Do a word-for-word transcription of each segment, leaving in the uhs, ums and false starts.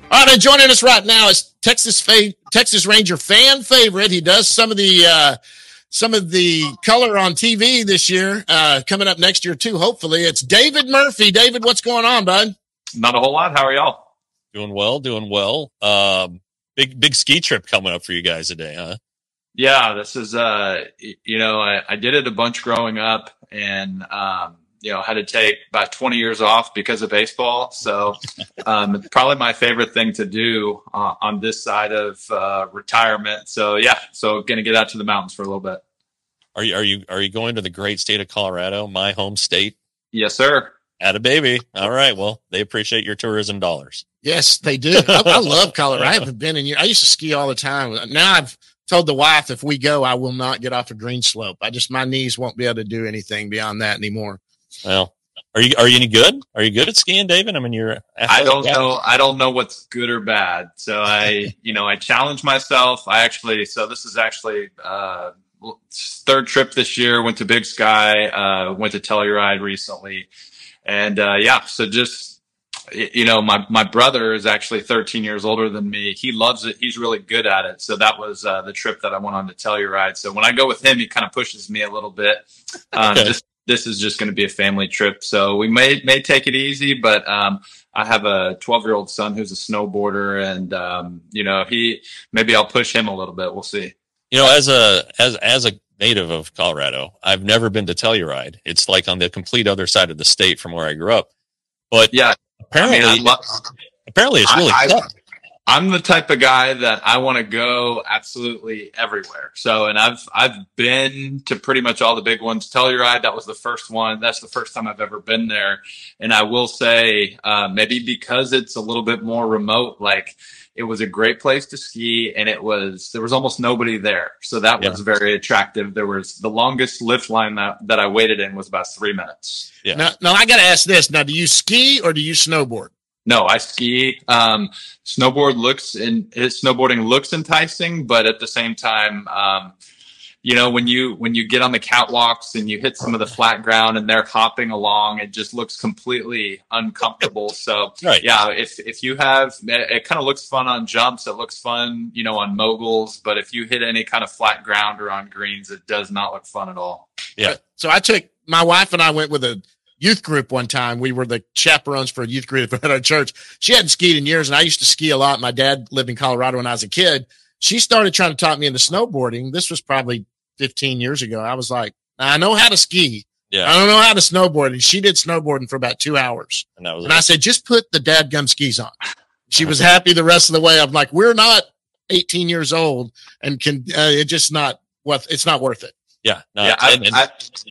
All right, and joining us right now is Texas fa- Texas Ranger fan favorite. He does some of the uh, some of the color on T V this year, uh, coming up next year too. Hopefully, it's David Murphy. David, what's going on, bud? Not a whole lot. How are y'all? Doing well, doing well. Um, big big ski trip coming up for you guys today, huh? Yeah, this is uh, you know, I, I did it a bunch growing up, and um, you know, had to take about twenty years off because of baseball. So, um, it's probably my favorite thing to do uh, on this side of uh, retirement. So, yeah, so gonna get out to the mountains for a little bit. Are you are you are you going to the great state of Colorado, my home state? Yes, sir. Atta baby. All right. Well, they appreciate your tourism dollars. Yes, they do. I, I love Colorado. I haven't been in years. I used to ski all the time. Now I've told the wife if we go, I will not get off a green slope. I just my knees won't be able to do anything beyond that anymore. Well, are you are you any good? Are you good at skiing, David? I mean, you're. I don't know. I don't know what's good or bad. So I, you know, I challenge myself. I actually. So this is actually uh, third trip this year. Went to Big Sky. Uh, went to Telluride recently, and uh, yeah. So just you know, my my brother is actually thirteen years older than me. He loves it. He's really good at it. So that was uh, the trip that I went on to Telluride. So when I go with him, he kind of pushes me a little bit. Um, Okay. Just. This is just going to be a family trip. So we may, may take it easy, but, um, I have a twelve year old son who's a snowboarder, and, um, you know, he, maybe I'll push him a little bit. We'll see. You know, as a as as a native of Colorado, I've never been to Telluride. It's like on the complete other side of the state from where I grew up. But Yeah. apparently, I mean, I lo- apparently, it's really I- I- tough. I'm the type of guy that I want to go absolutely everywhere. So, and I've, I've been to pretty much all the big ones. Telluride, that was the first one. That's the first time I've ever been there. And I will say, uh, maybe because it's a little bit more remote, like it was a great place to ski, and it was, there was almost nobody there. So that was Yeah. very attractive. There was the longest lift line that, that I waited in was about three minutes. Yeah. Now, now I got to ask this. Now, do you ski or do you snowboard? No, I ski. Um, snowboard looks and snowboarding looks enticing, but at the same time, um, you know, when you when you get on the catwalks and you hit some of the flat ground and they're hopping along, it just looks completely uncomfortable. So, Right. yeah, if if you have, it, it kind of looks fun on jumps. It looks fun, you know, on moguls. But if you hit any kind of flat ground or on greens, it does not look fun at all. Yeah. So I took my wife and I went with a youth group one time. We were the chaperones for a youth group at our church. She hadn't skied in years, and I used to ski a lot. My dad lived in Colorado when I was a kid. She started trying to talk me into snowboarding. This was probably fifteen years ago. I was like, I know how to ski. Yeah. I don't know how to snowboard. And she did snowboarding for about two hours. And that was And I said, just put the dadgum skis on. She was happy the rest of the way. I'm like, we're not eighteen years old and can, uh, it just not what it's not worth it. yeah. No, Yeah, I- and- and- I-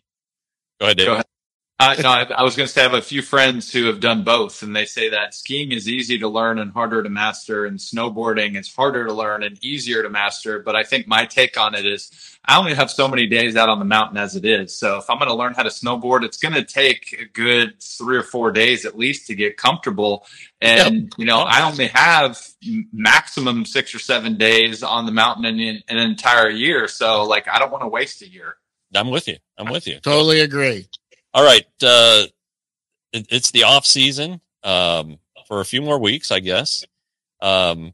go ahead, David. Go ahead. Uh, no, I, I was going to say I have a few friends who have done both, and they say that skiing is easy to learn and harder to master, and snowboarding is harder to learn and easier to master. But I think my take on it is I only have so many days out on the mountain as it is. So if I'm going to learn how to snowboard, it's going to take a good three or four days at least to get comfortable. And, you know, I only have maximum six or seven days on the mountain in, in an entire year. So, like, I don't want to waste a year. I'm with you. I'm with you. Totally agree. All right. Uh, it, it's the off season um, for a few more weeks, I guess. Um,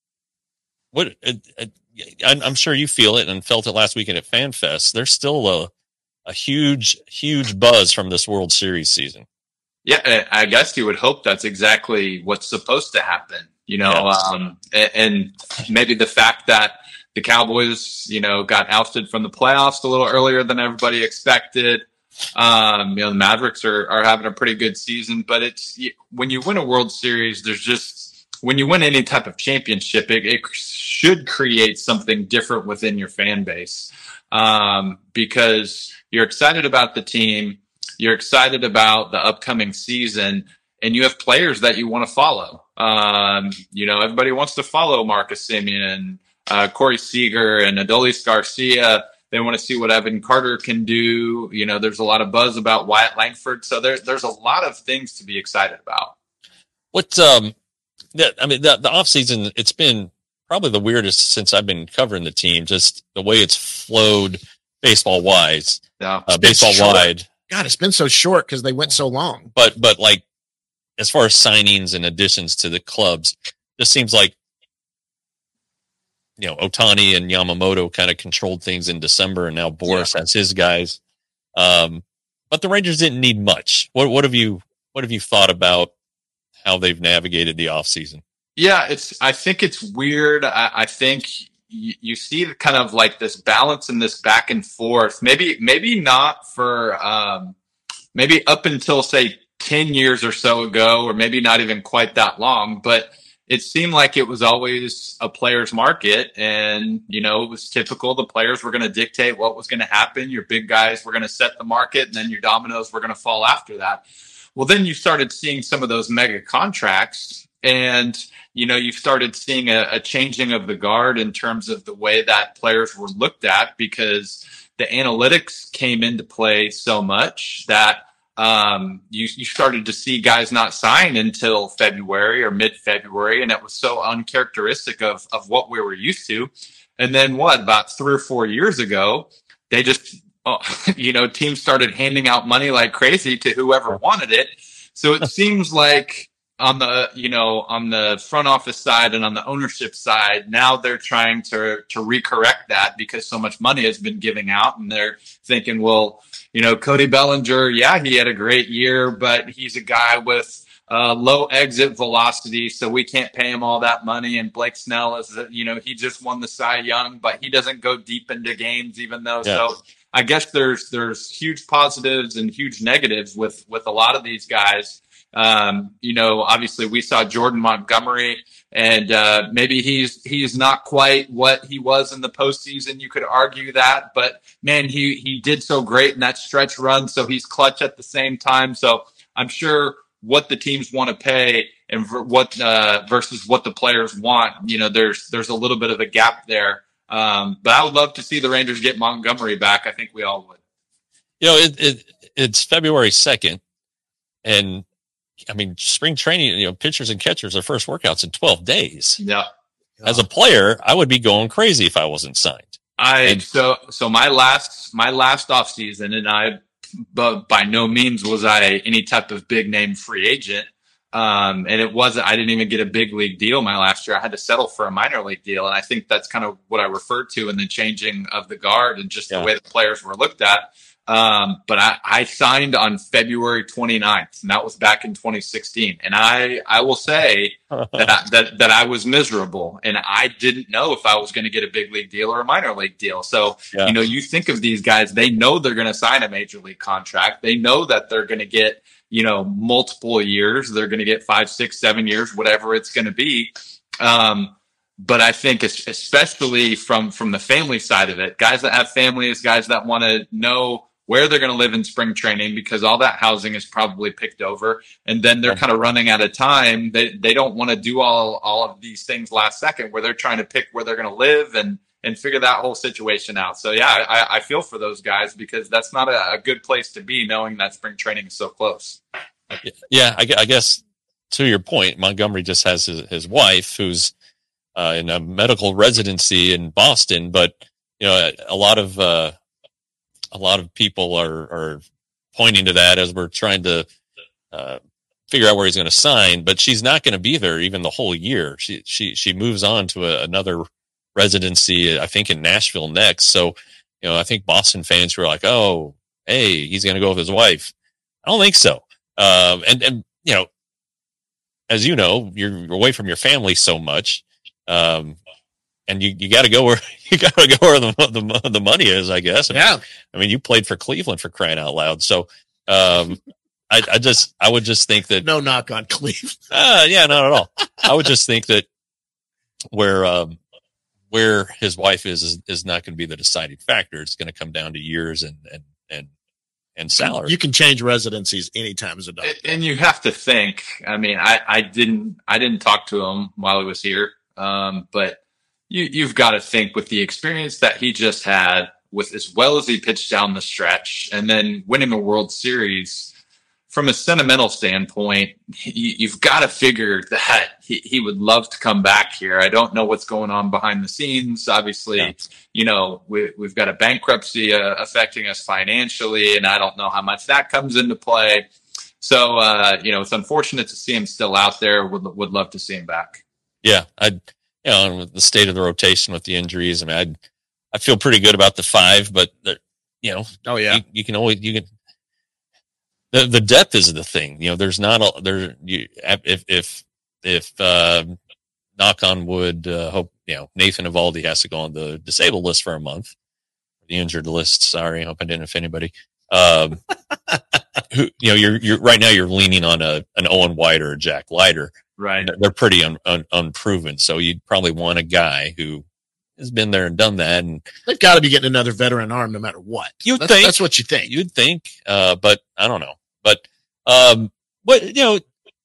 what it, it, I'm, I'm sure you feel it and felt it last weekend at FanFest. There's still a, a huge, huge buzz from this World Series season. Yeah, I guess you would hope that's exactly what's supposed to happen, you know, Yeah. um, and, and maybe the fact that the Cowboys, you know, got ousted from the playoffs a little earlier than everybody expected. Um, you know, the Mavericks are, are having a pretty good season, but it's when you win a World Series, there's just when you win any type of championship, it, it should create something different within your fan base, um, because you're excited about the team, you're excited about the upcoming season, and you have players that you want to follow. Um, you know, everybody wants to follow Marcus Semien and uh, Corey Seager and Adolis Garcia. They want to see what Evan Carter can do. You know, there's a lot of buzz about Wyatt Langford. So there, there's a lot of things to be excited about. What, um, the, I mean, the, the off season, it's been probably the weirdest since I've been covering the team, just the way it's flowed baseball wise, Yeah. uh, baseball short. wide. God, it's been so short because they went so long. But, but like, as far as signings and additions to the clubs, just seems like, you know, Ohtani and Yamamoto kind of controlled things in December, and now Boris yeah. has his guys. Um, but the Rangers didn't need much. What what have you what have you thought about how they've navigated the offseason? Yeah, it's. I think it's weird. I, I think you, you see kind of like this balance and this back and forth. Maybe maybe not for um, maybe up until say ten years or so ago, or maybe not even quite that long, but it seemed like it was always a player's market, and, you know, it was typical. The players were going to dictate what was going to happen. Your big guys were going to set the market, and then your dominoes were going to fall after that. Well, then you started seeing some of those mega contracts, and, you know, you started seeing a, a changing of the guard in terms of the way that players were looked at, because the analytics came into play so much that Um, you, you started to see guys not sign until February or mid-February, and it was so uncharacteristic of, of what we were used to. And then what, about three or four years ago, they just, oh, you know, teams started handing out money like crazy to whoever wanted it. So it seems like on the, you know, on the front office side and on the ownership side, now they're trying to, to recorrect that because so much money has been giving out, and they're thinking, well, you know, Cody Bellinger, yeah, he had a great year, but he's a guy with uh, low exit velocity, so we can't pay him all that money. And Blake Snell is, you know, he just won the Cy Young, but he doesn't go deep into games, even though. Yeah. So I guess there's there's huge positives and huge negatives with with a lot of these guys. Um, you know, obviously we saw Jordan Montgomery, and uh, maybe he's he's not quite what he was in the postseason. You could argue that, but man, he he did so great in that stretch run, so he's clutch at the same time. So I'm sure what the teams want to pay and what uh, versus what the players want, you know, there's there's a little bit of a gap there. Um, but I would love to see the Rangers get Montgomery back. I think we all would. You know, it, it it's February second, and I mean, spring training, you know, pitchers and catchers, their first workouts in twelve days. Yeah. As a player, I would be going crazy if I wasn't signed. I, and, so, so my last, my last off season, and I, but by no means was I any type of big name free agent. Um, and it wasn't, I didn't even get a big league deal my last year. I had to settle for a minor league deal. And I think that's kind of what I referred to in the changing of the guard and just yeah. the way the players were looked at. Um, but I, I signed on February twenty-ninth, and that was back in twenty sixteen. And I, I will say that, I, that, that I was miserable, and I didn't know if I was going to get a big league deal or a minor league deal. So, yeah. you know, you think of these guys, they know they're going to sign a major league contract. They know that they're going to get, you know, multiple years. They're going to get five, six, seven years, whatever it's going to be. Um, But I think especially from, from the family side of it, guys that have families, guys that want to know where they're going to live in spring training, because all that housing is probably picked over, and then they're kind of running out of time. They they don't want to do all, all of these things last second, where they're trying to pick where they're going to live and, and figure that whole situation out. So yeah, I, I feel for those guys, because that's not a, a good place to be, knowing that spring training is so close. Yeah, I, I guess to your point, Montgomery just has his, his wife who's uh, in a medical residency in Boston, but you know, a lot of uh, a lot of people are, are pointing to that as we're trying to uh, figure out where he's going to sign. But she's not going to be there even the whole year. She she she moves on to a, another residency, I think, in Nashville next. So, you know, I think Boston fans who are like, "Oh, hey, he's going to go with his wife." I don't think so. Um, and and you know, as you know, you're away from your family so much. Um, and you, you got to go where you got to go where the, the the money is, I guess. Yeah. I mean, you played for Cleveland, for crying out loud. So, um, I, I just I would just think that no knock on Cleveland. Uh, yeah, not at all. I would just think that where um, where his wife is is, is not going to be the deciding factor. It's going to come down to years and and and and salary. You can change residencies anytime as a doctor. And you have to think. I mean, I, I didn't I didn't talk to him while he was here. Um, but you, you've got to think, with the experience that he just had, with as well as he pitched down the stretch, and then winning a World Series, from a sentimental standpoint, you, you've got to figure that he, he would love to come back here. I don't know what's going on behind the scenes. Obviously, yeah. you know, we, we've got a bankruptcy uh, affecting us financially, and I don't know how much that comes into play. So, uh, you know, it's unfortunate to see him still out there. Would would love to see him back. Yeah, I, you know, with the state of the rotation with the injuries, I mean, I, I feel pretty good about the five, but you know, oh yeah, you, you can always you can. The the depth is the thing. You know, there's not a there. You if if if uh, knock on wood, uh, hope you know Nathan Evaldi has to go on the disabled list for a month, the injured list. Sorry, hope I didn't offend anybody. Um, who you know you're you're right now you're leaning on a an Owen White or a Jack Leiter. Right. They're pretty un, un, unproven. So you'd probably want a guy who has been there and done that. And they've got to be getting another veteran arm no matter what. You'd that's, think. That's what you think. You'd think. Uh, but I don't know. But, um, what, you know,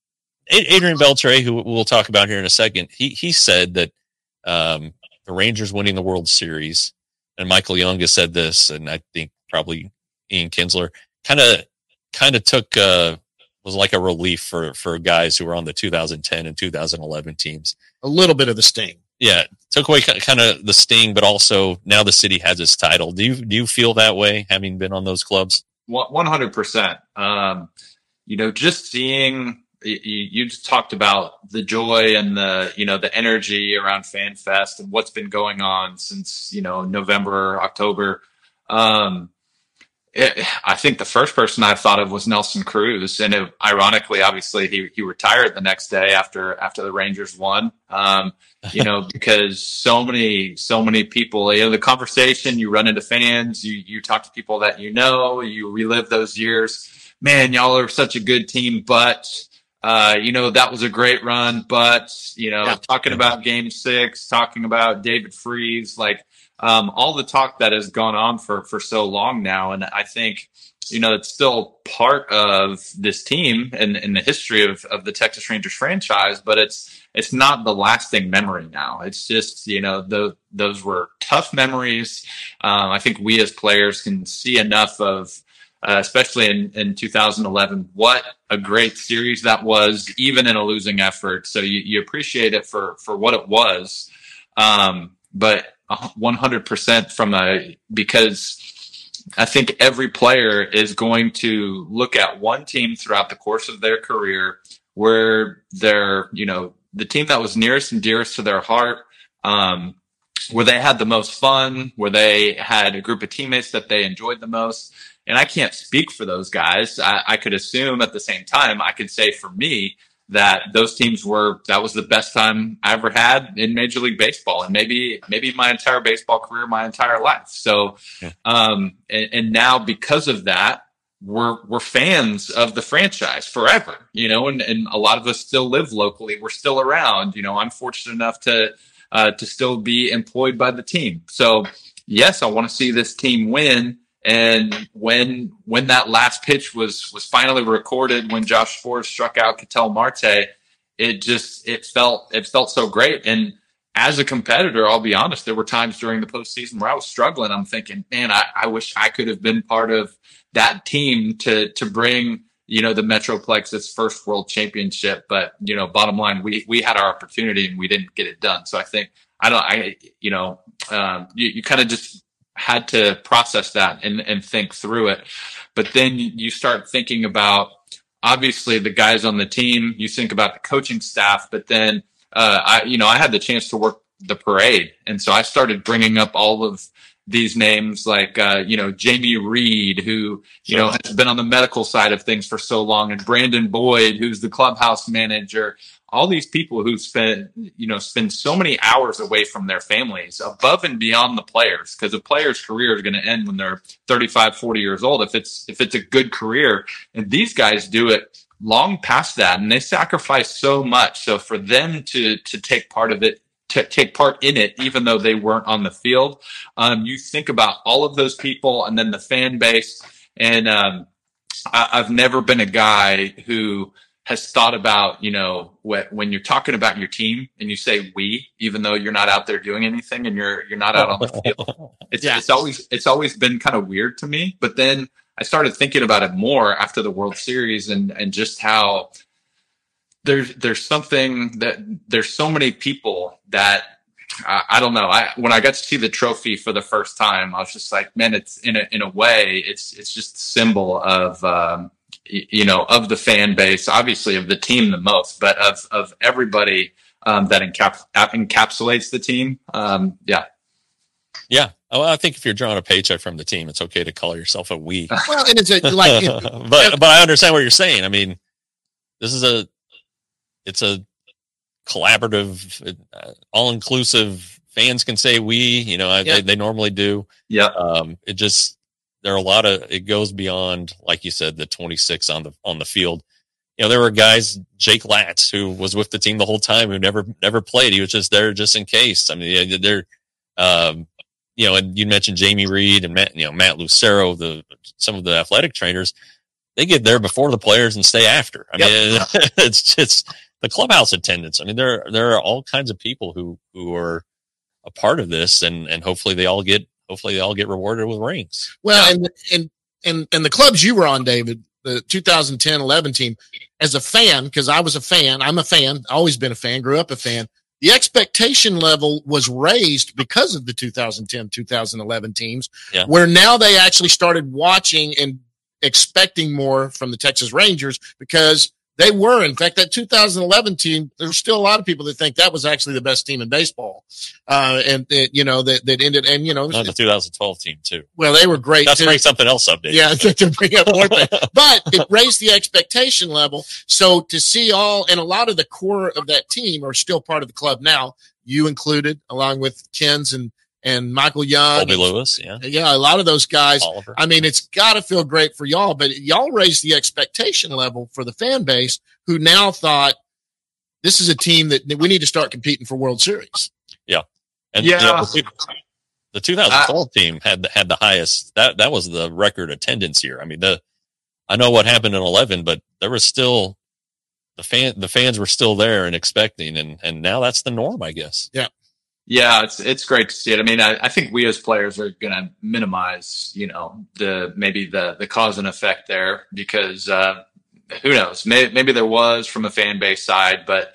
Adrian Beltre, who we'll talk about here in a second, he, he said that, um, the Rangers winning the World Series, and Michael Young has said this, and I think probably Ian Kinsler kind of, kind of took, uh, was like a relief for, for guys who were on the two thousand ten and two thousand eleven teams. A little bit of the sting. Yeah. Took away kind of the sting, but also now the city has its title. Do you, do you feel that way having been on those clubs? one hundred percent. Um, you know, just seeing, you, you just talked about the joy and the, you know, the energy around FanFest and what's been going on since, you know, November, October. Um, It, I think the first person I thought of was Nelson Cruz, and it, ironically, obviously, he he retired the next day after after the Rangers won. Um, you know, because so many so many people, you know, the conversation, you run into fans, you you talk to people that you know, you relive those years. Man, y'all are such a good team, but uh, you know that was a great run. But you know, yeah. talking about Game Six, talking about David Freese, like. Um, all the talk that has gone on for, for so long now. And I think, you know, it's still part of this team and in the history of, of the Texas Rangers franchise, but it's, it's not the lasting memory now. It's just, you know, the, those were tough memories. Um, I think we as players can see enough of, uh, especially in, in two thousand eleven, what a great series that was, even in a losing effort. So you, you appreciate it for, for what it was. Um, but one hundred percent from a, because I think every player is going to look at one team throughout the course of their career where they're, you know, the team that was nearest and dearest to their heart, um, where they had the most fun, where they had a group of teammates that they enjoyed the most. And I can't speak for those guys. I, I could assume at the same time, I could say for me, that those teams were, that was the best time I ever had in Major League Baseball, and maybe, maybe my entire baseball career, my entire life. So, yeah. um, and, and now because of that, we're, we're fans of the franchise forever, you know, and, and a lot of us still live locally. We're still around, you know, I'm fortunate enough to, uh, to still be employed by the team. So yes, I want to see this team win. And when when that last pitch was was finally recorded, when Josh Forrest struck out Ketel Marte, it just it felt it felt so great. And as a competitor, I'll be honest, there were times during the postseason where I was struggling. I'm thinking, man, I, I wish I could have been part of that team to to bring, you know, the Metroplex its first world championship. But, you know, bottom line, we we had our opportunity and we didn't get it done. So I think I don't I you know um, you, you kind of just had to process that and, and think through it. But then you start thinking about, obviously, the guys on the team, you think about the coaching staff, but then, uh, I, you know, I had the chance to work the parade. And so I started bringing up all of these names like, uh, you know, Jamie Reed, who, you know, has been on the medical side of things for so long, and Brandon Boyd, who's the clubhouse manager. All these people who spend, you know, spend so many hours away from their families above and beyond the players, because a player's career is going to end when they're thirty-five, forty years old. If it's, if it's a good career, and these guys do it long past that, and they sacrifice so much. So for them to, to take part of it, to take part in it, even though they weren't on the field, um, you think about all of those people and then the fan base. And, um, I, I've never been a guy who has thought about, you know, what, when you're talking about your team and you say we, even though you're not out there doing anything and you're, you're not out on the field. It's, yeah. it's always, it's always been kind of weird to me. But then I started thinking about it more after the World Series, and, and just how there's, there's something that there's so many people that I, I don't know. I, when I got to see the trophy for the first time, I was just like, man, it's in a, in a way, it's, it's just a symbol of, um, you know, of the fan base, obviously of the team the most, but of, of everybody, um, that encap- encapsulates the team. Um, yeah. Yeah. Well, I think if you're drawing a paycheck from the team, it's okay to call yourself a we. Well, and it's a, like, it, but but I understand what you're saying. I mean, this is a it's a collaborative, uh, all inclusive. Fans can say we. You know, Yeah. they, they normally do. Yeah. Um, it just there are a lot of it goes beyond, like you said, the twenty-six on the on the field. You know, there were guys, Jake Latz, who was with the team the whole time, who never never played. He was just there just in case. I mean, they're. Um, You know, and you mentioned Jamie Reed and Matt, you know, Matt Lucero, the some of the athletic trainers, they get there before the players and stay after. I Yep. mean, it's it's the clubhouse attendance. I mean, there there are all kinds of people who who are a part of this, and and hopefully they all get hopefully they all get rewarded with rings. well, and, and, and, and the clubs you were on, David, the two thousand ten eleven team, as a fan, because I was a fan, I'm a fan, always been a fan, grew up a fan. The expectation level was raised because of the two thousand ten two thousand eleven teams, Yeah. where now they actually started watching and expecting more from the Texas Rangers because they were. In fact, that two thousand eleven team, there's still a lot of people that think that was actually the best team in baseball. Uh, and, it, you know, that, that ended, and, you know, Not the two thousand twelve team too. well, they were great. That's too. bring something else up, Dave. Yeah, to bring up more things. But it raised the expectation level. So to see all, and a lot of the core of that team are still part of the club now, you included, along with Ken's and, and Michael Young. Colby Lewis, yeah, Yeah, a lot of those guys. Oliver. I mean, it's got to feel great for y'all, but y'all raised the expectation level for the fan base who now thought this is a team that that we need to start competing for World Series. And Yeah. you know, the, two- the two thousand twelve team had the, had the highest. That that was the record attendance year. I mean, the I know what happened in eleven, but there was still the fan the fans were still there and expecting, and and now that's the norm, I guess. Yeah, it's it's great to see it. I mean, I, I think we as players are going to minimize, you know, the maybe the the cause and effect there because uh, who knows? Maybe, maybe there was from a fan base side, but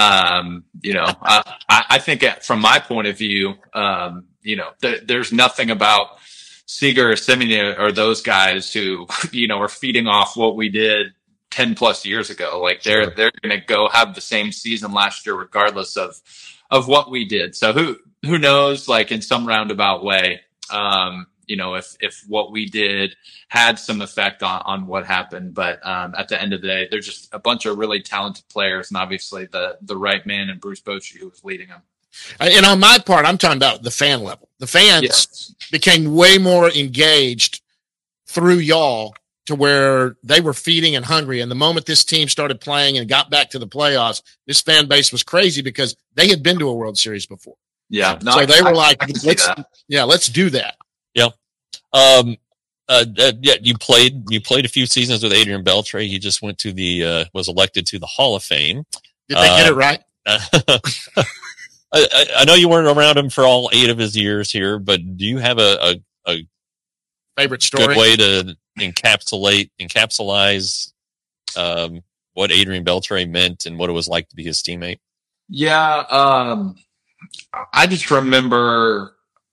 um, you know, I, I think from my point of view, um, you know, th- there's nothing about Seager or Semien or those guys who, you know, are feeding off what we did ten plus years ago. Like they're Sure. they're going to go have the same season last year, regardless of of what we did. So who who knows? Like in some roundabout way, um, you know, if if what we did had some effect on on what happened. But um, at the end of the day, they're just a bunch of really talented players, and obviously the the right man and Bruce Bochy who was leading them. And on my part, I'm talking about the fan level. The fans Yes. became way more engaged through y'all to where they were feeding and hungry. And the moment this team started playing and got back to the playoffs, this fan base was crazy because they had been to a World Series before. Yeah. No, so I- they were I- like, I can see let's, that. yeah, let's do that. Um, uh, uh, yeah, you played you played a few seasons with Adrian Beltre. He just went to the uh, was elected to the Hall of Fame. Did they get Uh, it right? I, I, I know you weren't around him for all eight of his years here, but do you have a, a Favorite story? good way to encapsulate encapsulize um, what Adrian Beltre meant and what it was like to be his teammate? Yeah, um, I just remember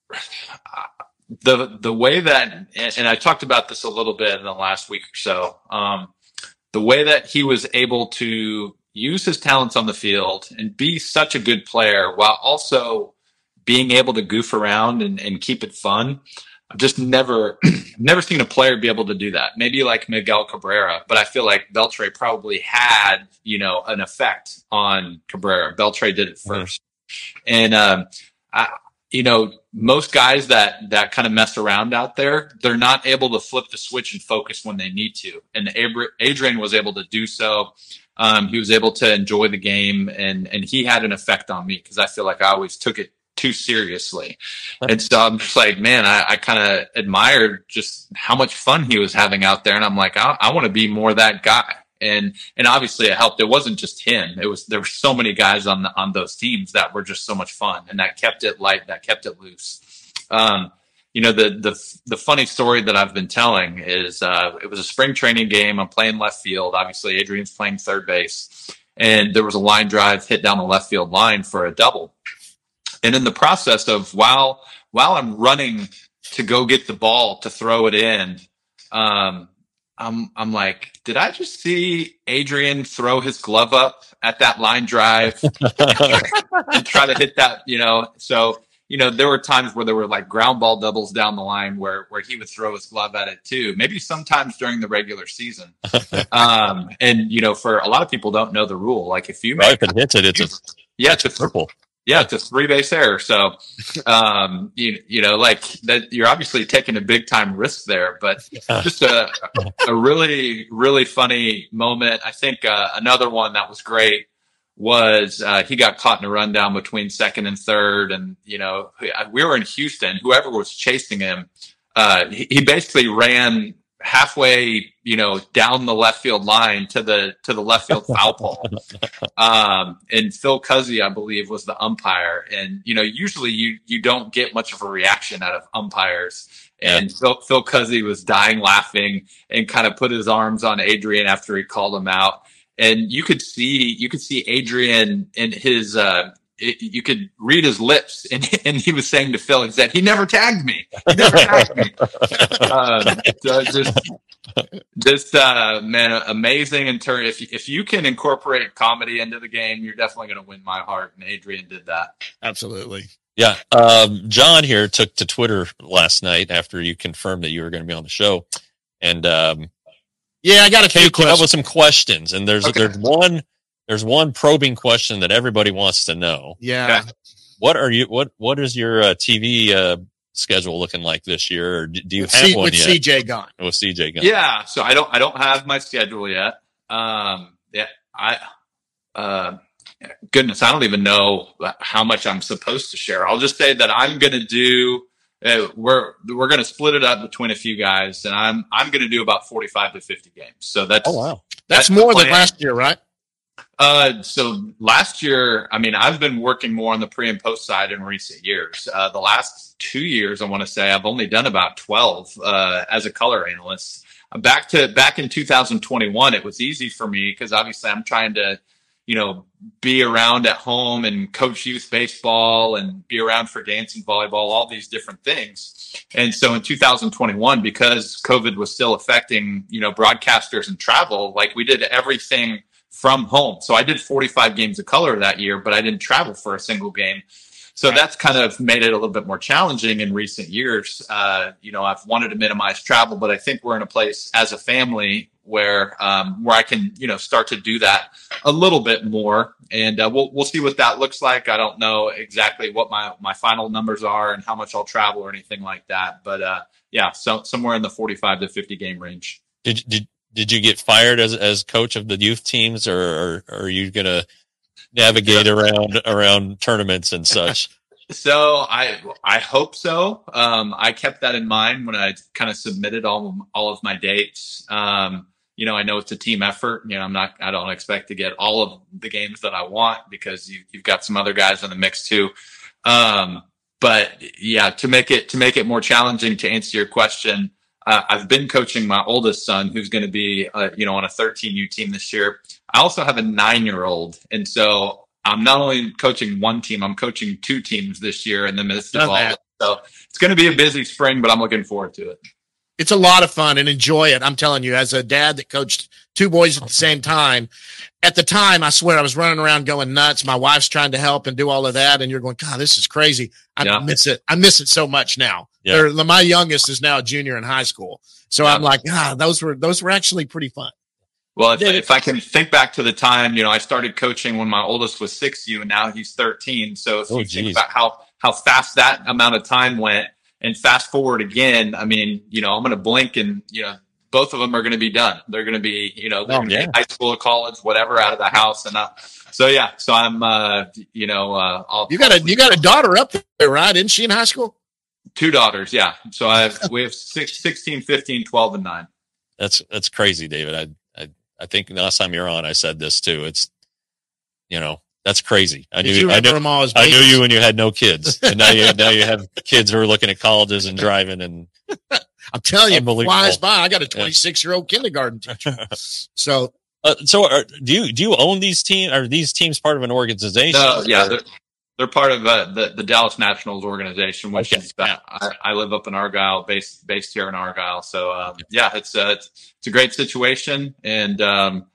the the way that, and, and I talked about this a little bit in the last week or so. Um, the way that he was able to use his talents on the field and be such a good player while also being able to goof around and, and keep it fun. I've just never, never seen a player be able to do that. Maybe like Miguel Cabrera, but I feel like Beltre probably had, you know, an effect on Cabrera. Beltre did it first. And, um, I, you know, most guys that, that kind of mess around out there, they're not able to flip the switch and focus when they need to. And Adrian was able to do so. Um, he was able to enjoy the game, and, and he had an effect on me because I feel like I always took it too seriously. And so I'm just like, man, I, I kind of admired just how much fun he was having out there. And I'm like, I, I want to be more that guy. And, and obviously it helped. It wasn't just him. It was, there were so many guys on the, on those teams that were just so much fun, and that kept it light, that kept it loose. Um, you know, the, the, the funny story that I've been telling is, uh, it was a spring training game. I'm playing left field. Obviously Adrian's playing third base, and there was a line drive hit down the left field line for a double. And in the process of while, while I'm running to go get the ball to throw it in, um, I'm I'm like, did I just see Adrian throw his glove up at that line drive and try to hit that? You know, so you know there were times where there were like ground ball doubles down the line where where he would throw his glove at it too. Maybe sometimes during the regular season. Um, and you know, for a lot of people don't know the rule. Like if you Right, make if it hits it, it's a yeah, it's it's a triple. Yeah, it's a three base error. So, um, you you know, like that, you're obviously taking a big time risk there. But just a a really really funny moment. I think uh, another one that was great was uh, he got caught in a rundown between second and third, and you know we were in Houston. Whoever was chasing him, uh, he, he basically ran halfway, you know, down the left field line to the to the left field foul pole. Um, and Phil Cuzzy, I believe, was the umpire. And you know, usually you you don't get much of a reaction out of umpires. And yeah. Phil Phil Cuzzy was dying laughing and kind of put his arms on Adrian after he called him out. And you could see you could see Adrian in his. Uh, It, you could read his lips, and, and he was saying to Phil, he said, he never tagged me. He never tagged me. um, so just, just uh, man, amazing in turn. If, if you can incorporate comedy into the game, you're definitely going to win my heart. And Adrian did that. Absolutely. Yeah. Um, John here took to Twitter last night after you confirmed that you were going to be on the show. And um, yeah, I got a few came up with some questions. And there's okay. there's one. There's one probing question that everybody wants to know. Yeah. Okay. What are you? What What is your uh, T V uh, schedule looking like this year? Or do you with have C- one with yet? C J gone? With C J gone. Yeah. So I don't. I don't have my schedule yet. Um. Yeah. I. Uh. Goodness, I don't even know how much I'm supposed to share. I'll just say that I'm going to do. Uh, we're we're going to split it up between a few guys, and I'm I'm going to do about forty-five to fifty games. So that's. Oh wow. That's, that's more than last year, right? Uh, so last year, I mean, I've been working more on the pre and post side in recent years. Uh, the last two years, I want to say I've only done about twelve, uh, as a color analyst. Back to, back in two thousand twenty-one, it was easy for me because obviously I'm trying to, you know, be around at home and coach youth baseball and be around for dance and volleyball, all these different things. And so in two thousand twenty-one, because COVID was still affecting, you know, broadcasters and travel, like we did everything from home. So I did forty-five games of color that year, but I didn't travel for a single game. So that's kind of made it a little bit more challenging in recent years. Uh, you know, I've wanted to minimize travel, but I think we're in a place as a family where um, where I can, you know, start to do that a little bit more. And uh, we'll we'll see what that looks like. I don't know exactly what my, my final numbers are and how much I'll travel or anything like that. But uh, yeah, so somewhere in the forty-five to fifty game range. Did did Did you get fired as as coach of the youth teams, or, or, or are you going to navigate around around tournaments and such? So I I hope so. Um, I kept that in mind when I kind of submitted all of, all of my dates. Um, you know, I know it's a team effort. You know, I'm not. I don't expect to get all of the games that I want because you, you've got some other guys in the mix too. Um, but yeah, to make it to make it more challenging, to answer your question. Uh, I've been coaching my oldest son, who's going to be, uh, you know, on a thirteen U team this year. I also have a nine-year-old, and so I'm not only coaching one team, I'm coaching two teams this year in the midst of all of it. So it's going to be a busy spring, but I'm looking forward to it. It's a lot of fun and enjoy it. I'm telling you, as a dad that coached two boys at the same time, at the time, I swear I was running around going nuts. My wife's trying to help and do all of that. And you're going, God, this is crazy. I yeah. miss it. I miss it so much now. Yeah. My youngest is now a junior in high school. So yeah. I'm like, ah, those were, those were actually pretty fun. Well, if, if I can think back to the time, you know, I started coaching when my oldest was six U and now he's thirteen. So if oh, you geez. think about how, how fast that amount of time went and fast forward again, I mean, you know, I'm going to blink and, you know, both of them are going to be done. They're going to be, you know, they're oh, going to yeah. be high school or college, whatever, out of the house. And uh, so, yeah, so I'm, uh, you know, uh, I'll, you got a, you got a daughter up there, right? Isn't she in high school? Two daughters. Yeah. So I have, we have six, sixteen, fifteen, twelve, and nine. That's, that's crazy, David. I, I, I think the last time you were on, I said this too. It's, you know, that's crazy. I Did knew, I knew, them all as I knew you when you had no kids, and now you, now you have kids who are looking at colleges and driving and, I'm telling you, it flies by. I got a twenty-six year old kindergarten teacher. So, uh, so are, do you do you own these teams? Are these teams part of an organization? No, yeah, they're, they're part of uh, the the Dallas Nationals organization, which Okay. is uh, I, I live up in Argyle, based based here in Argyle. So um, yeah, it's uh, it's it's a great situation, and um,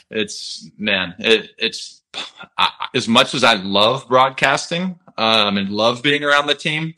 it's man, it, it's I, as much as I love broadcasting um, and love being around the team.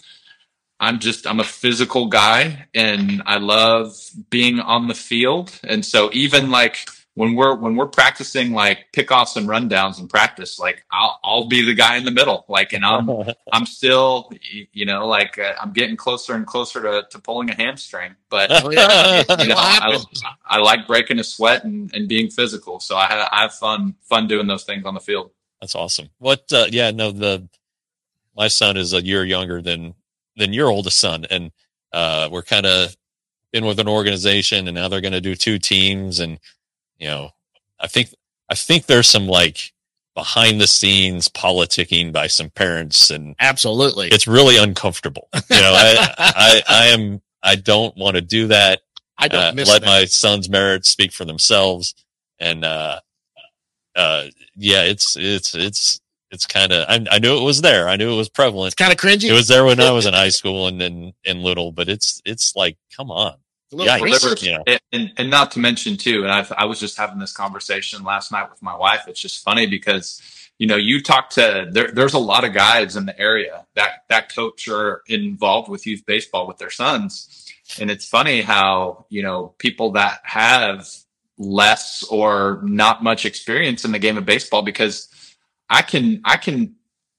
I'm just I'm a physical guy, and I love being on the field, and so even like when we're when we're practicing like pickoffs and rundowns in practice, like I'll I'll be the guy in the middle, like, and I'm I'm still, you know, like uh, I'm getting closer and closer to, to pulling a hamstring, but Oh, yeah. you know, It'll I, happen. I like breaking a sweat and, and being physical, so I have, I have fun fun doing those things on the field. That's awesome. What? Uh, yeah, no. The my son is a year younger than than your oldest son, and uh, we're kind of been with an organization, and now they're going to do two teams, and you know, I think I think there's some like behind the scenes politicking by some parents, and Absolutely. it's really uncomfortable. You know, I I, I am I don't want to do that. I don't Uh, miss let that. my son's merits speak for themselves, and uh, uh, yeah, it's it's it's it's kind of I, I knew it was there. I knew it was prevalent. It's kind of cringy. It was there when I was in high school and then and little, but it's it's like, come on. A little Yikes, research. you know. And, and, and not to mention too, and I, I was just having this conversation last night with my wife. It's just funny because, you know, you talk to, there, there's a lot of guys in the area that, that coach are involved with youth baseball with their sons. And it's funny how, you know, people that have less or not much experience in the game of baseball, because I can, I can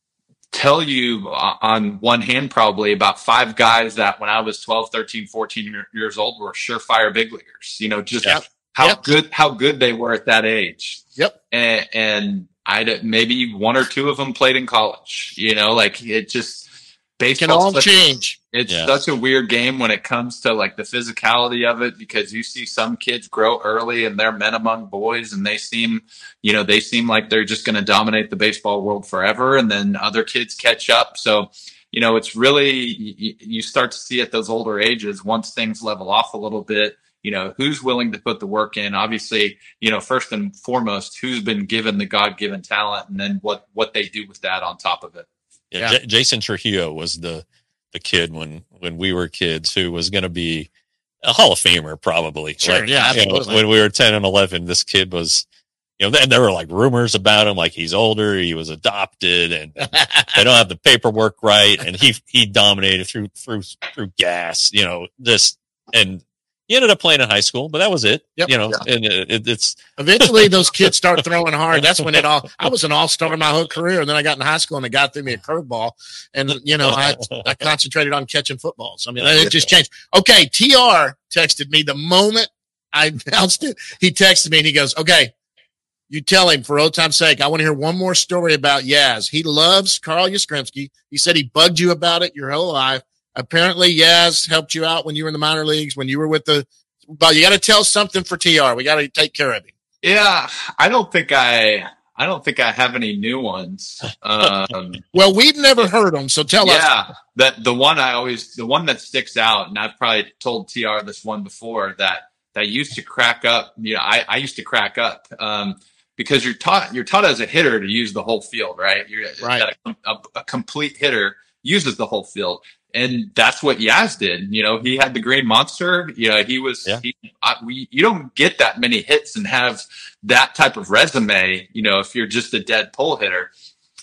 tell you on one hand probably about five guys that when I was twelve, thirteen, fourteen years old were surefire big leaguers, you know, just Yep. how Yep. good, how good they were at that age. Yep. And, and I maybe one or two of them played in college, you know, like it just It can baseball. all change. It's Yeah. such a weird game when it comes to like the physicality of it, because you see some kids grow early and they're men among boys, and they seem, you know, they seem like they're just going to dominate the baseball world forever. And then other kids catch up. So, you know, it's really, you, you start to see at those older ages, once things level off a little bit, you know, who's willing to put the work in. Obviously, you know, first and foremost, who's been given the God-given talent, and then what, what they do with that on top of it. Yeah, Yeah. J- Jason Trujillo was the the kid when when we were kids who was going to be a Hall of Famer probably. Sure, Like, yeah, you know, absolutely. when we were ten and eleven, this kid was, you know, and there were like rumors about him, like he's older, he was adopted, and they don't have the paperwork right, and he he dominated through through through gas, you know, just and he ended up playing in high school, but that was it. Yep. You know, and it, it, it's Eventually, those kids start throwing hard. That's when it all. I was an all-star my whole career, and then I got in high school, and the guy threw me a curveball, and you know, I I concentrated on catching footballs. I mean, it just changed. Okay, T R texted me the moment I announced it. He texted me, and he goes, "Okay, you tell him for old time's sake, I want to hear one more story about Yaz. He loves Carl Yastrzemski. He said he bugged you about it your whole life. Apparently, Yaz helped you out when you were in the minor leagues, when you were with the. But you got to tell something for T R. We got to take care of him." Yeah, I don't think I, I don't think I have any new ones. Um, Well, we've never heard them, so tell us. yeah, that the one I always, the one that sticks out, and I've probably told T R this one before, that that used to crack up. You know, I, I used to crack up um, because you're taught you're taught as a hitter to use the whole field, right? You're Right. that a, a, a complete hitter uses the whole field. And that's what Yaz did. You know, he had the Green Monster. You know, he was, Yeah. he, I, we, you don't get that many hits and have that type of resume, you know, if you're just a dead pull hitter.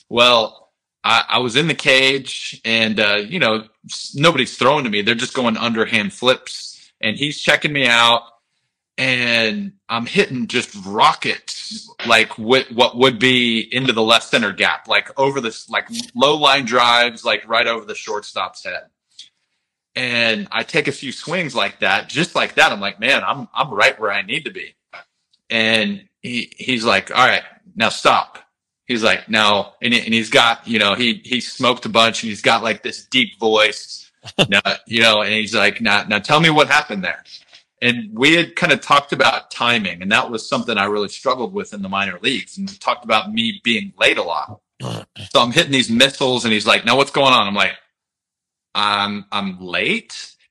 Well, I, I was in the cage, and, uh, you know, nobody's throwing to me. They're just going underhand flips, and he's checking me out, and I'm hitting just rockets, like what, what would be into the left center gap, like over this, like low line drives, like right over the shortstop's head. And I take a few swings like that, just like that. I'm like, man, I'm, I'm right where I need to be. And he, he's like, all right, now stop. He's like, no. And, he, and he's got, you know, he, he smoked a bunch, and he's got like this deep voice, now, you know, and he's like, now, now tell me what happened there. And we had kind of talked about timing, and that was something I really struggled with in the minor leagues. And we talked about me being late a lot. So I'm hitting these missiles, and he's like, now what's going on? I'm like, I'm, I'm late.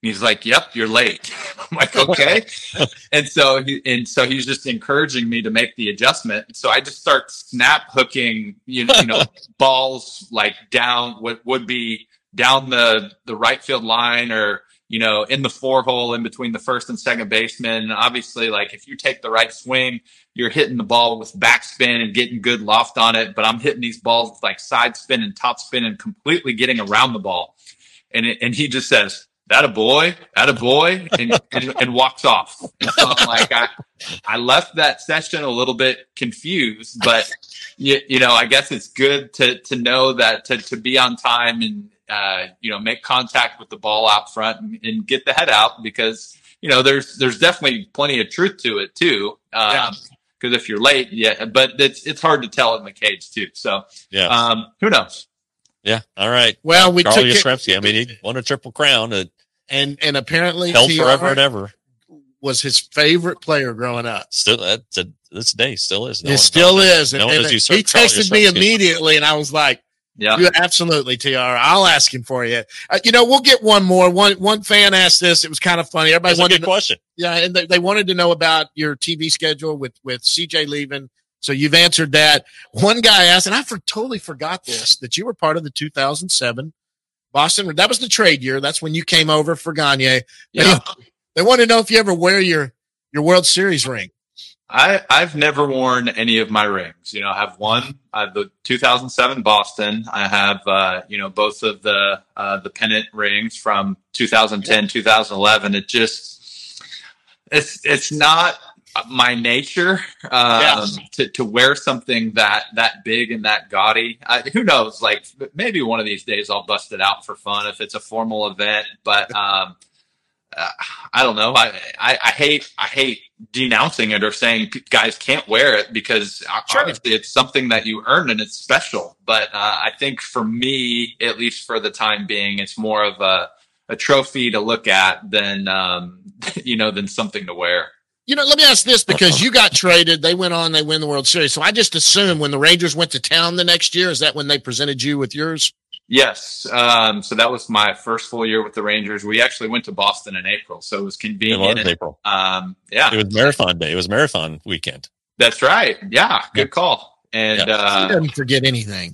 he's like, "Yep, you're late." I'm like, "Okay." and so he, and so he's just encouraging me to make the adjustment. So I just start snap hooking, you know, you know balls like down what would be down the the right field line, or you know, in the four hole in between the first and second baseman. And obviously, like if you take the right swing, you're hitting the ball with backspin and getting good loft on it. But I'm hitting these balls with like side spin and top spin and completely getting around the ball. And it, and he just says, "That a boy, that a boy," and, and, and walks off. And so I'm like, I, I left that session a little bit confused, but you, you know, I guess it's good to to know that to to be on time and uh, you know, make contact with the ball out front and, and get the head out, because you know there's there's definitely plenty of truth to it too. Um, yeah. Because if you're late, yeah, but it's it's hard to tell in the cage too. So yeah, um, who knows? Yeah. All right. Well, we Carl took Yastrzemski. it, I mean, he won a triple crown. It and and apparently held T R forever and ever. Was his favorite player growing up. Still, that to this day still is. No it still is. No and, and he texted me immediately, and I was like, "Yeah, you absolutely, T R. I'll ask him for you." Uh, you know, we'll get one more. One one fan asked this. It was kind of funny. Everybody That's wanted a good to, question. Yeah, and they, they wanted to know about your T V schedule with with C J leaving. So you've answered that. One guy asked, and I for, totally forgot this, that you were part of the two thousand seven Boston. That was the trade year. That's when you came over for Gagne. Yeah. They, they want to know if you ever wear your your World Series ring. I, I've never worn any of my rings. You know, I have one, I have the two thousand seven Boston. I have, uh, you know, both of the uh, the pennant rings from two thousand ten, two thousand eleven. It just, it's it's not my nature um, yeah. to, to wear something that that big and that gaudy. I, who knows? Like maybe one of these days I'll bust it out for fun if it's a formal event. But um, uh, I don't know. I, I I hate I hate denouncing it or saying guys can't wear it, because sure. obviously it's something that you earn and it's special. But uh, I think for me, at least for the time being, it's more of a a trophy to look at than um, you know than something to wear. You know, let me ask this, because you got traded. They went on, they win the World Series. So I just assume when the Rangers went to town the next year, is that when they presented you with yours? Yes. Um, so that was my first full year with the Rangers. We actually went to Boston in April, so it was convenient. It was April. Um, yeah. It was marathon day. It was marathon weekend. That's right. Yeah. Good yeah. call. And yeah. uh, he doesn't forget anything.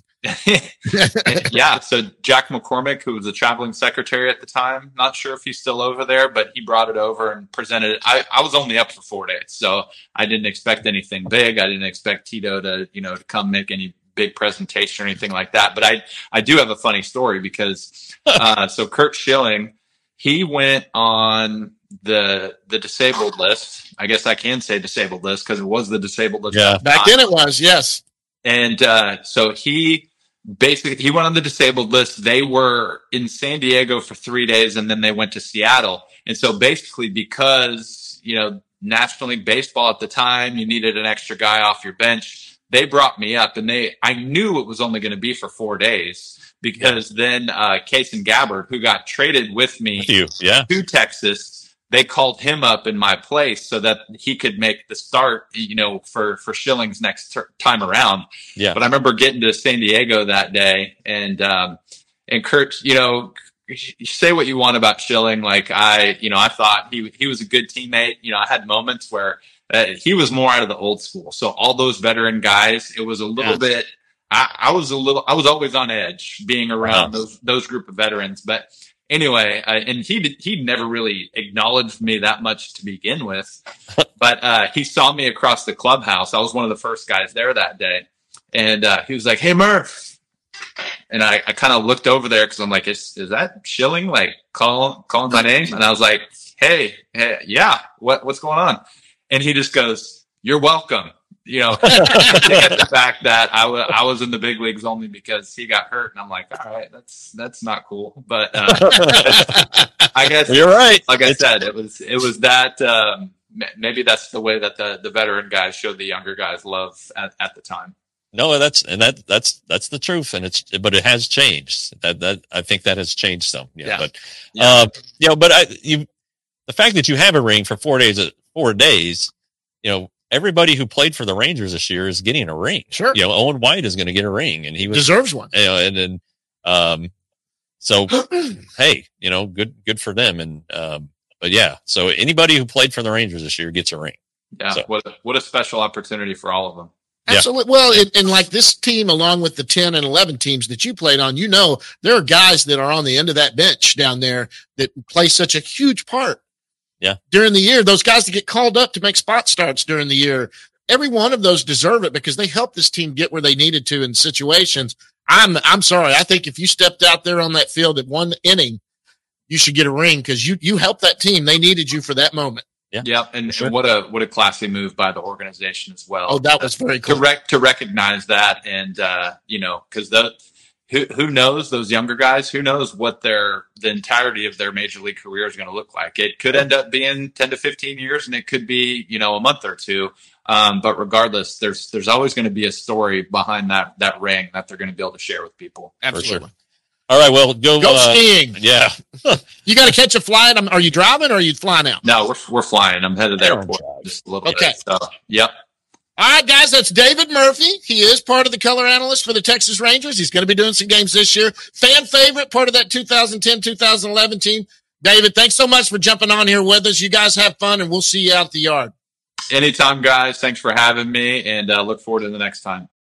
yeah. So Jack McCormick, who was the traveling secretary at the time, not sure if he's still over there, but he brought it over and presented it. I, I was only up for four days, so I didn't expect anything big. I didn't expect Tito to, you know, to come make any big presentation or anything like that. But I, I do have a funny story, because uh, so Curt Schilling, he went on the the disabled list. I guess I can say disabled list because it was the disabled list. Yeah, back then it was, yes. And uh, so he. Basically, he went on the disabled list. They were in San Diego for three days, and then they went to Seattle. And so basically, because, you know, National League Baseball at the time, you needed an extra guy off your bench. They brought me up, and they, I knew it was only going to be for four days because then uh, Kason Gabbard, who got traded with me with you. Yeah. to Texas, they called him up in my place so that he could make the start, you know, for, for Schilling's next ter- time around. Yeah. But I remember getting to San Diego that day, and, um, and Curt, you know, you say what you want about Schilling. Like I, you know, I thought he, he was a good teammate. You know, I had moments where uh, he was more out of the old school. So all those veteran guys, it was a little yeah. bit, I, I was a little, I was always on edge being around wow. those, those group of veterans, but anyway, uh, and he did, he never really acknowledged me that much to begin with, but uh, he saw me across the clubhouse. I was one of the first guys there that day, and uh, he was like, "Hey, Murph," and I, I kind of looked over there because I'm like, "Is is that Schilling like calling calling my name?" And I was like, "Hey, hey, yeah, what what's going on?" And he just goes, "You're welcome." You know, the fact that I, w- I was in the big leagues only because he got hurt, and I'm like, all right, that's that's not cool. But uh, I guess you're right. Like I it's- said, it was it was that um, maybe that's the way that the, the veteran guys showed the younger guys love at, at the time. No, that's and that that's that's the truth, and it's but it has changed. That that I think that has changed some. Yeah, yeah. but yeah. Uh, you know, but I you the fact that you have a ring for four days four days, you know. Everybody who played for the Rangers this year is getting a ring. Sure. You know, Owen White is going to get a ring, and he was, deserves one. You know, and then, um, So, hey, you know, good, good for them. And, um, but yeah, so anybody who played for the Rangers this year gets a ring. Yeah. So. What a, what a special opportunity for all of them. Absolutely. Yeah. Well, and, and like this team, along with the ten and eleven teams that you played on, you know, there are guys that are on the end of that bench down there that play such a huge part. Yeah. During the year, those guys that get called up to make spot starts during the year, every one of those deserve it because they helped this team get where they needed to in situations. I'm, I'm sorry. I think if you stepped out there on that field at one inning, you should get a ring because you, you helped that team. They needed you for that moment. Yeah. Yeah. And, sure. and what a, what a classy move by the organization as well. Oh, that was very cool. To, rec- to recognize that. And, uh, you know, cause the, who, who knows those younger guys, who knows what their, the entirety of their major league career is going to look like. It could end up being ten to fifteen years and it could be, you know, a month or two. Um, but regardless, there's, there's always going to be a story behind that, that ring that they're going to be able to share with people. Absolutely. Sure. All right. Well, go, go uh, skiing. Yeah. You got to catch a flight. Are you driving or are you flying out? No, we're, we're flying. I'm headed to the airport just a little okay. bit. So, yep. All right, guys, that's David Murphy. He is part of the color analyst for the Texas Rangers. He's going to be doing some games this year. Fan favorite, part of that two thousand ten, two thousand eleven team. David, thanks so much for jumping on here with us. You guys have fun, and we'll see you out at the yard. Anytime, guys. Thanks for having me, and uh, look forward to the next time.